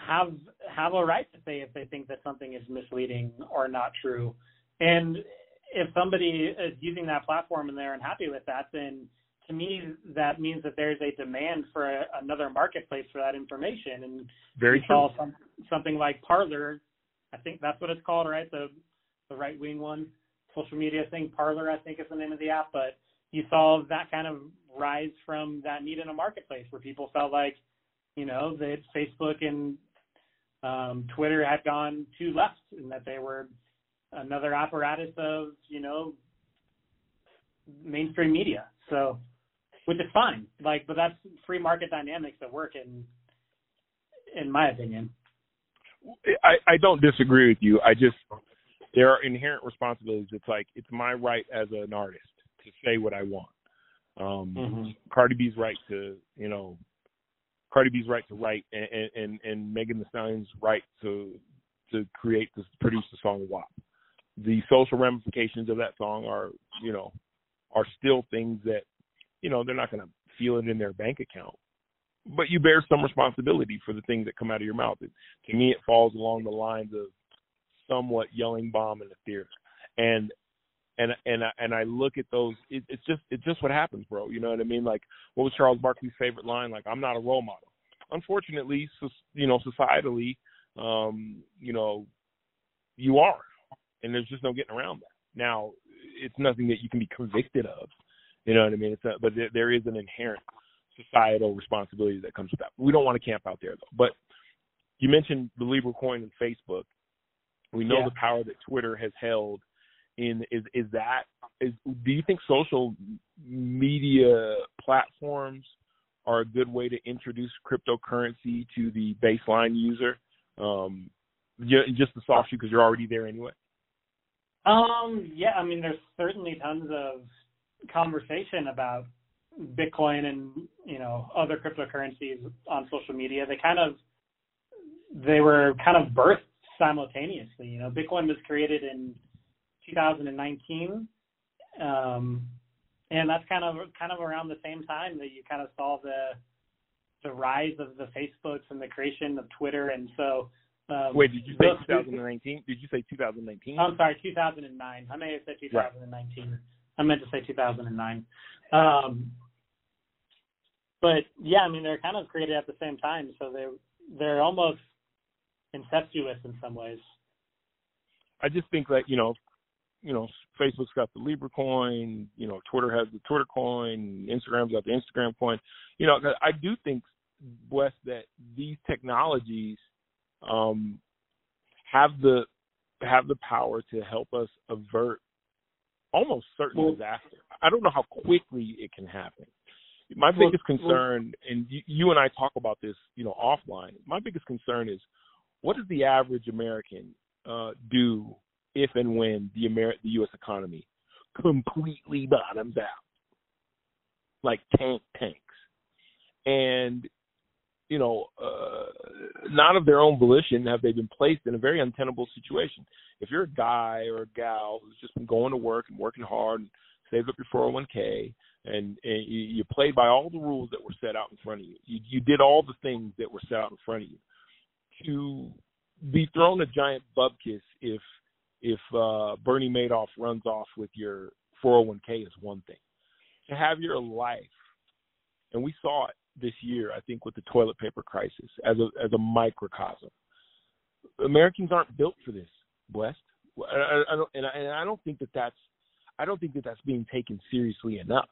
have a right to say if they think that something is misleading or not true. And if somebody is using that platform and they're unhappy with that, then to me that means that there's a demand for another marketplace for that information. And Very true. Something like Parler, I think that's what it's called, right? The right-wing one, social media thing. Parler, I think, is the name of the app. But you saw that kind of rise from that need in a marketplace where people felt like, that Facebook and Twitter had gone too left and that they were another apparatus of, mainstream media. So, which is fine. But that's free market dynamics that work in my opinion. I don't disagree with you. There are inherent responsibilities. It's my right as an artist to say what I want. Cardi B's right to write, and Megan Thee Stallion's right to produce the song WAP. The social ramifications of that song are still things that, they're not going to feel it in their bank account. But you bear some responsibility for the things that come out of your mouth. To me, it falls along the lines of somewhat yelling bomb in the theater. And I look at those. It's just what happens, bro. You know what I mean? Like, what was Charles Barkley's favorite line? Like, I'm not a role model. Unfortunately, societally, you are, and there's just no getting around that. Now, it's nothing that you can be convicted of. You know what I mean? But there is an inherent societal responsibility that comes with that. We don't want to camp out there, though. But you mentioned the Libra coin and Facebook. We know the power that Twitter has held. Do you think social media platforms are a good way to introduce cryptocurrency to the baseline user? Just the soft shoe because you're already there anyway. Yeah, I mean, there's certainly tons of conversation about Bitcoin and other cryptocurrencies on social media. They were kind of birthed simultaneously. Bitcoin was created in 2019, and that's kind of around the same time that you kind of saw the rise of the Facebooks and the creation of Twitter. And so wait, did you say 2019? Did you say 2019? I'm sorry, 2009. I may have said 2019. Right. I meant to say 2009. But yeah, I mean, they're kind of created at the same time, so they're almost incestuous in some ways. I just think that Facebook's got the Libra coin, Twitter has the Twitter coin, Instagram's got the Instagram coin. I do think, Wes, that these technologies have the power to help us avert almost certain disaster. I don't know how quickly it can happen. My biggest concern, and you and I talk about this, offline. My biggest concern is, what does the average American do if and when the U.S. economy completely bottoms out, like tanks, and not of their own volition have they been placed in a very untenable situation. If you're a guy or a gal who's just been going to work and working hard and saved up your 401k, and you played by all the rules that were set out in front of you. You did all the things that were set out in front of you. To be thrown a giant bupkis if Bernie Madoff runs off with your 401k is one thing. To have your life, and we saw it this year, I think, with the toilet paper crisis as a microcosm. Americans aren't built for this, West. I don't think that's being taken seriously enough.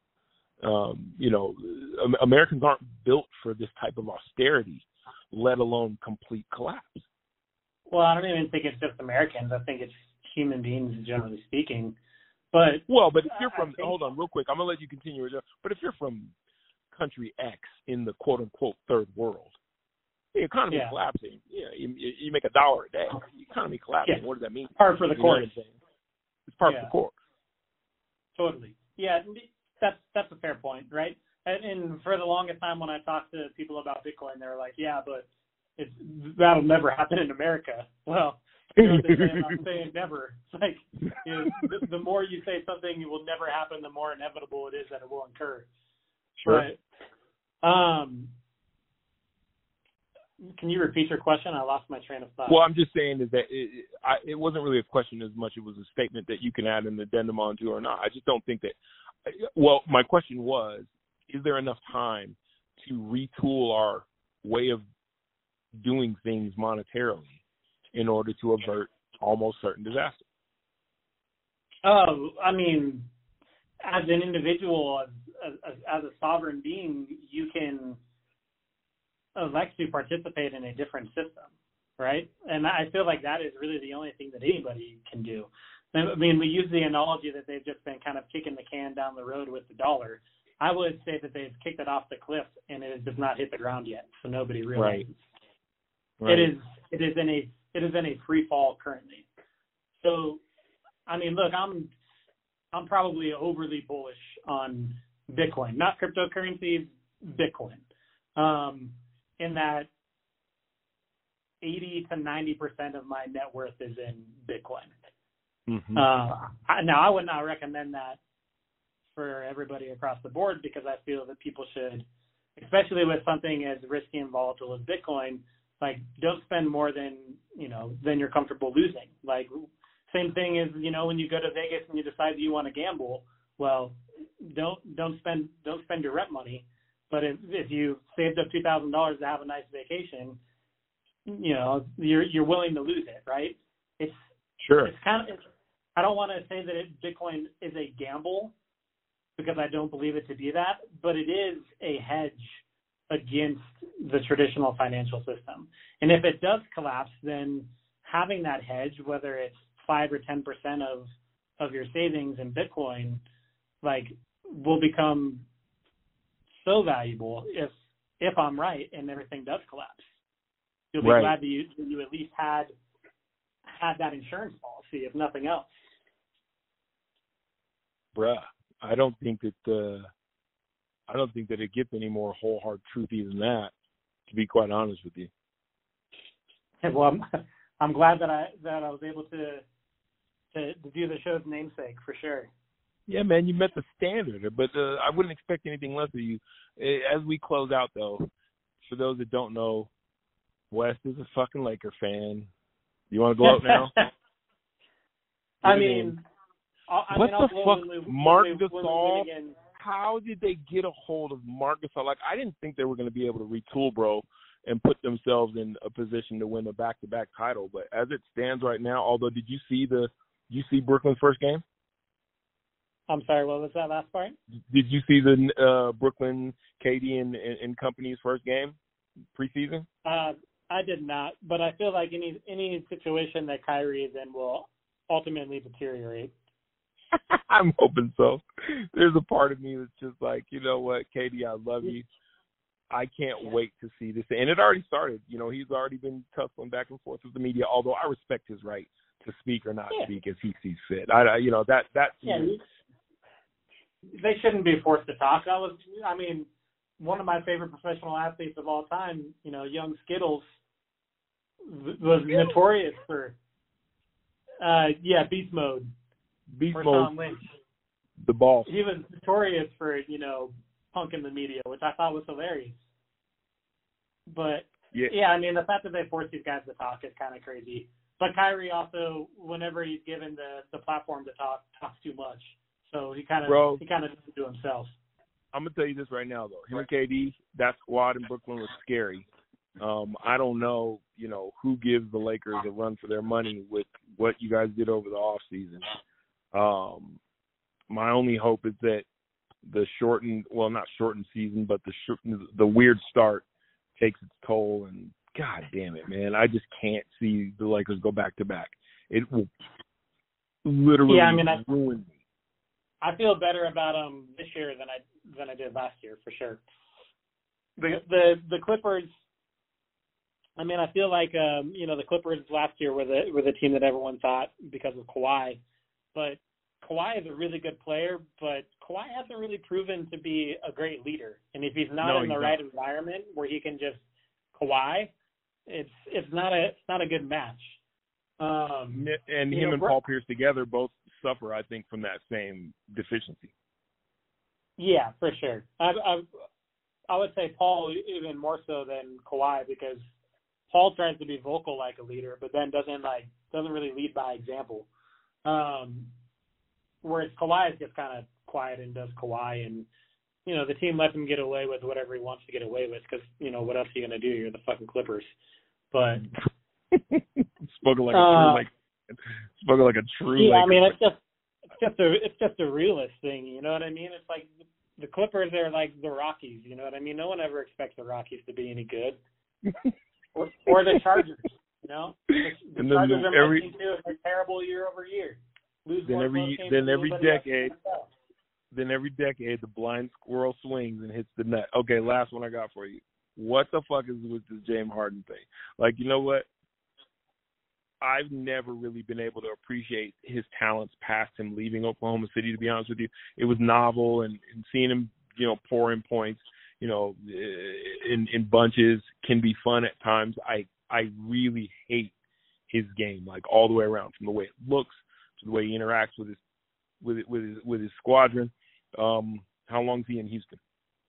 Americans aren't built for this type of austerity, let alone complete collapse. Well, I don't even think it's just Americans. I think it's human beings, generally speaking. But if you're from, hold on real quick, I'm going to let you continue. But if you're from country X in the quote-unquote third world, the economy is collapsing. You make $1 a day. The economy collapsing. Yeah. What does that mean? Par for the course. It's par for the course. Totally. Yeah, that's a fair point, right? And for the longest time when I talked to people about Bitcoin, they were like, yeah, but that'll never happen in America. Well, what they say about saying never. It's like, the more you say something will never happen, the more inevitable it is that it will occur. Sure. But Can you repeat your question? I lost my train of thought. Well, I'm just saying is that it wasn't really a question as much. It was a statement that you can add an addendum onto or not. I just don't think that. Well, my question was, is there enough time to retool our way of doing things monetarily in order to avert almost certain disaster? Oh, I mean, as an individual, as a sovereign being, you can elect to participate in a different system, right? And I feel like that is really the only thing that anybody can do. I mean, we use the analogy that they've just been kind of kicking the can down the road with the dollar. I would say that they've kicked it off the cliff and it has not hit the ground yet, so nobody realizes. Right. It is in a free fall currently. So, I mean, look, I'm probably overly bullish on Bitcoin, not cryptocurrencies, Bitcoin. In that 80 to 90% of my net worth is in Bitcoin. Mm-hmm. Now, I would not recommend that for everybody across the board because I feel that people should, especially with something as risky and volatile as Bitcoin, like don't spend more than you're comfortable losing. Like same thing as when you go to Vegas and you decide you want to gamble. Well, don't spend your rent money. But if you saved up $2,000 to have a nice vacation, you're willing to lose it, right? It's kind of. I don't want to say that Bitcoin is a gamble because I don't believe it to be that, but it is a hedge against the traditional financial system. And if it does collapse, then having that hedge, whether it's 5 or 10% of your savings in Bitcoin, like will become so valuable if I'm right and everything does collapse. You'll be glad that you at least had that insurance policy, if nothing else. Bruh, I don't think that it gets any more whole hard truthy than that, to be quite honest with you. Well, I'm glad that I was able to do the show's namesake for sure. Yeah, man, you met the standard, but I wouldn't expect anything less of you. As we close out, though, for those that don't know, Wes is a fucking Laker fan. You want to go out now? What the fuck? Marc Gasol? How did they get a hold of Marc Gasol? Like, I didn't think they were going to be able to retool, bro, and put themselves in a position to win a back-to-back title. But as it stands right now, although, did you see Brooklyn's first game? I'm sorry, what was that last part? Did you see the Brooklyn, KD, and company's first game preseason? I did not, but I feel like any situation that Kyrie is in will ultimately deteriorate. I'm hoping so. There's a part of me that's just like, you know what, KD, I love you. I can't wait to see this. And it already started. He's already been tussling back and forth with the media, although I respect his right to speak or not speak as he sees fit. They shouldn't be forced to talk. One of my favorite professional athletes of all time, young Skittles, was notorious for, beast mode. Beast or mode. Tom Lynch. The ball. He was notorious for, punking the media, which I thought was hilarious. But, the fact that they force these guys to talk is kind of crazy. But Kyrie also, whenever he's given the platform to talk, talks too much. So he kind of does it to himself. I'm going to tell you this right now, though. Him and KD, that squad in Brooklyn was scary. I don't know, who gives the Lakers a run for their money with what you guys did over the offseason. My only hope is that the not shortened season, but the weird start takes its toll. And God damn it, man, I just can't see the Lakers go back to back. It will literally ruin me. I feel better about them this year than I did last year, for sure. The Clippers. I feel like the Clippers last year were the team that everyone thought because of Kawhi, but Kawhi is a really good player, but Kawhi hasn't really proven to be a great leader. And if he's not in the right environment where he can just Kawhi, it's not a good match. And him and Paul Pierce together both suffer, I think, from that same deficiency. Yeah, for sure. I would say Paul even more so than Kawhi because Paul tries to be vocal like a leader, but then doesn't really lead by example. Whereas Kawhi is just kind of quiet and does Kawhi, and the team lets him get away with whatever he wants to get away with because what else are you gonna do? You're the fucking Clippers. But spoken like a true. Yeah, I mean it's just a realist thing. You know what I mean? It's like the Clippers are like the Rockies. You know what I mean? No one ever expects the Rockies to be any good, or the Chargers. The Chargers are my team too. They're terrible year over year. Then every decade, the blind squirrel swings and hits the net. Okay, last one I got for you. What the fuck is with this James Harden thing? Like, you know what? I've never really been able to appreciate his talents past him leaving Oklahoma City, to be honest with you. It was novel, and seeing him, pour in points, in bunches can be fun at times. I really hate his game, like all the way around, from the way it looks to the way he interacts with his squadron. How long is he in Houston?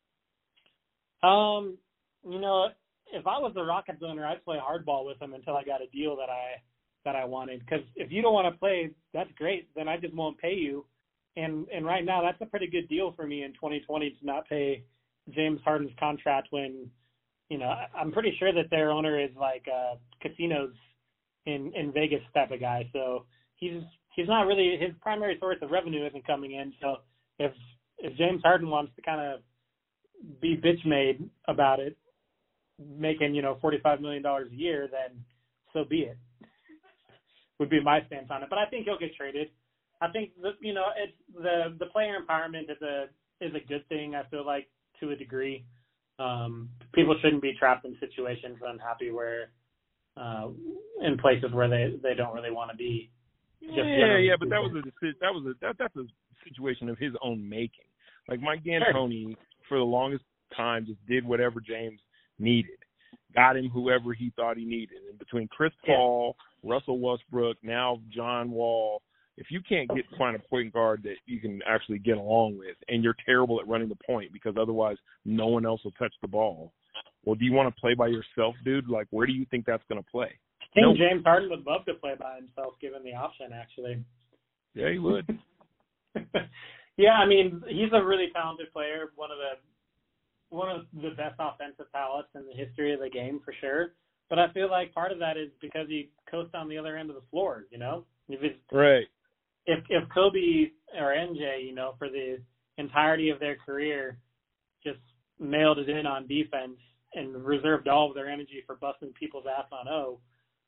If I was the Rockets owner, I'd play hardball with him until I got a deal that I wanted. Because if you don't want to play, that's great. Then I just won't pay you. And right now, that's a pretty good deal for me in 2020 to not pay James Harden's contract when, I'm pretty sure that their owner is like casinos in Vegas type of guy. So he's not really, his primary source of revenue isn't coming in. So if James Harden wants to kind of be bitch made about it, making $45 million a year, then so be it. Would be my stance on it. But I think he'll get traded. I think it's the player empowerment is a good thing. I feel like to a degree, people shouldn't be trapped in situations unhappy where in places where they don't really want to be. But that's a situation of his own making. Like Mike D'Antoni, for the longest time, just did whatever James needed, got him whoever he thought he needed. And between Chris Paul, Russell Westbrook, now John Wall, if you can't find a point guard that you can actually get along with, and you're terrible at running the point because otherwise no one else will touch the ball, well, do you want to play by yourself, dude? Like, where do you think that's going to play? I think James Harden would love to play by himself, given the option, actually. Yeah, he would. Yeah, I mean, he's a really talented player, one of the best offensive talents in the history of the game, for sure. But I feel like part of that is because he coasts on the other end of the floor, Right. If Kobe or MJ, for the entirety of their career, just mailed it in on defense and reserved all of their energy for busting people's ass on O,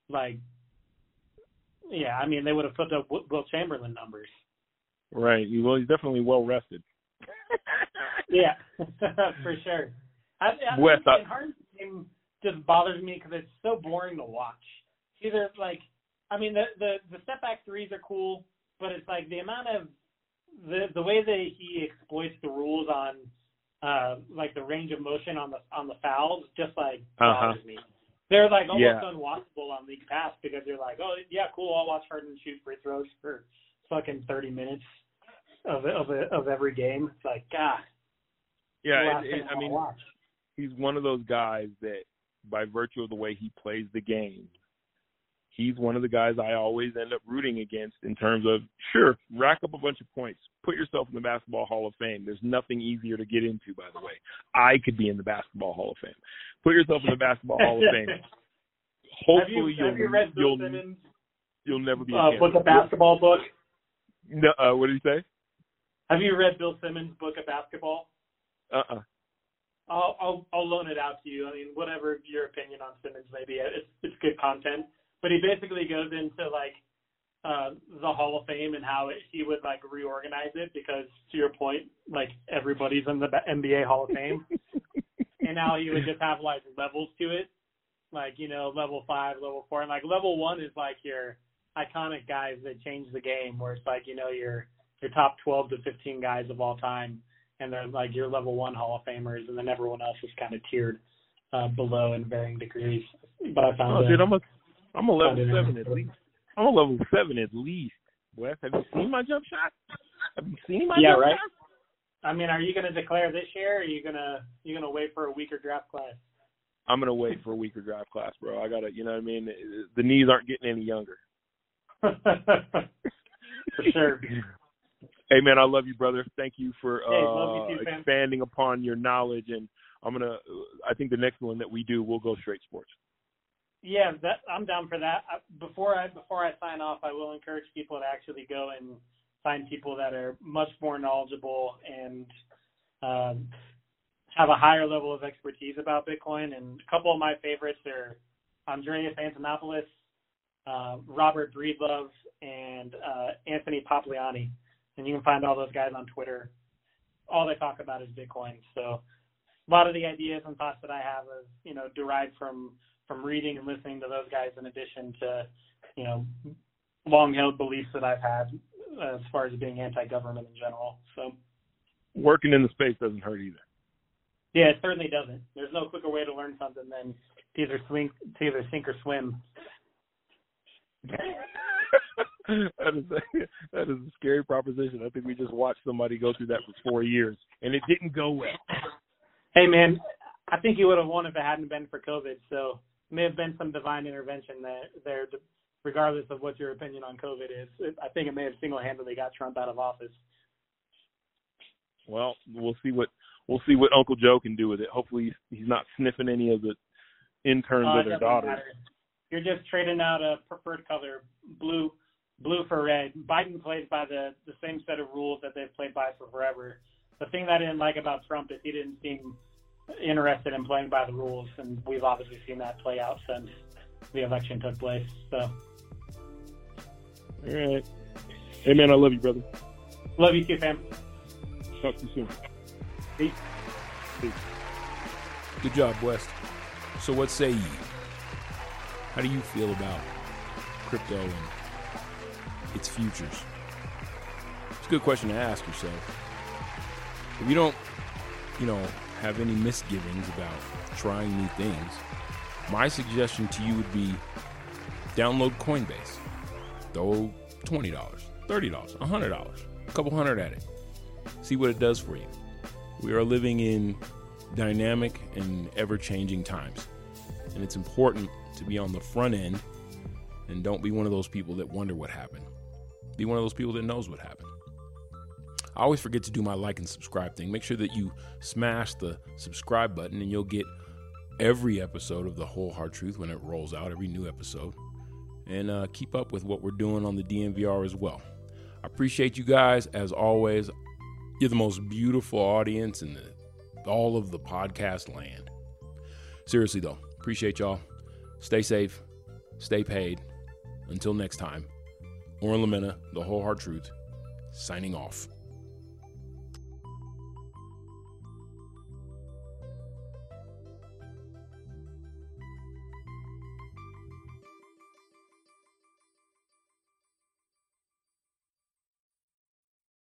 they would have put up Will Chamberlain numbers. Right. Well, he's definitely well rested. Yeah, for sure. Harden's game just bothers me because it's so boring to watch. Either the step back threes are cool, but it's like the amount of the way that he exploits the rules on the range of motion on the fouls just bothers me. They're almost unwatchable on League Pass because you're like, oh yeah, cool, I'll watch Harden shoot free throws for fucking 30 minutes of every game. It's like, God. Yeah, he's one of those guys that, by virtue of the way he plays the game, he's one of the guys I always end up rooting against in terms of, sure, rack up a bunch of points, put yourself in the Basketball Hall of Fame. There's nothing easier to get into, by the way. I could be in the Basketball Hall of Fame. Put yourself in the Basketball Hall of Fame. Hopefully have you read Bill Simmons' you'll never be a book of basketball book? No, what did he say? Have you read Bill Simmons' book of basketball? I'll loan it out to you. I mean, whatever your opinion on Simmons may be, it's good content. But he basically goes into the Hall of Fame and how he would reorganize it because, to your point, everybody's in the NBA Hall of Fame, and now he would just have levels to it, level 5, level 4, and level 1 is your iconic guys that change the game, where it's your top 12 to 15 guys of all time. And they're your level 1 Hall of Famers, and then everyone else is kind of tiered below in varying degrees. But I found dude, I'm a level 7 at least. I'm a level 7 at least. Wes, have you seen my jump shot? Have you seen my jump right? shot? I mean, are you going to declare this year, or are you gonna wait for a weaker draft class? I'm gonna wait for a weaker draft class, bro. I gotta, you know what I mean? The knees aren't getting any younger. For sure. Hey man, I love you, brother. Thank you for love you too, fam. expanding upon your knowledge, and I think the next one that we do, we'll go straight sports. Yeah, I'm down for that. Before I sign off, I will encourage people to actually go and find people that are much more knowledgeable and have a higher level of expertise about Bitcoin. And a couple of my favorites are Andreas Antonopoulos, Robert Breedlove, and Anthony Papliani. And you can find all those guys on Twitter. All they talk about is Bitcoin. So a lot of the ideas and thoughts that I have is, derived from reading and listening to those guys, in addition to, long-held beliefs that I've had as far as being anti-government in general. So working in the space doesn't hurt either. Yeah, it certainly doesn't. There's no quicker way to learn something than to either sink or swim. That is a scary proposition. I think we just watched somebody go through that for 4 years, and it didn't go well. Hey, man, I think he would have won if it hadn't been for COVID. So it may have been some divine intervention there, regardless of what your opinion on COVID is. I think it may have single-handedly got Trump out of office. Well, we'll see what Uncle Joe can do with it. Hopefully he's not sniffing any of the interns or their daughters. Matter. You're just trading out a preferred color, blue for red. Biden plays by the same set of rules that they've played by for forever. The thing that I didn't like about Trump is he didn't seem interested in playing by the rules, and we've obviously seen that play out since the election took place. So, all right. Hey, man, I love you, brother. Love you too, fam. Talk to you soon. Peace. Peace. Good job, West. So what say ye? How do you feel about crypto and its futures? It's a good question to ask yourself. If you don't, have any misgivings about trying new things, my suggestion to you would be download Coinbase. Throw $20, $30, $100, a couple hundred at it. See what it does for you. We are living in dynamic and ever-changing times, and it's important to be on the front end and don't be one of those people that wonder what happened. Be one of those people that knows what happened. I always forget to do my like and subscribe thing. Make sure that you smash the subscribe button and you'll get every episode of The Whole Hard Truth when it rolls out, every new episode. And keep up with what we're doing on the DNVR as well. I appreciate you guys, as always. You're the most beautiful audience in all of the podcast land. Seriously, though, appreciate y'all. Stay safe. Stay paid. Until next time, Oren Lamena, The Whole Hard Truth, signing off.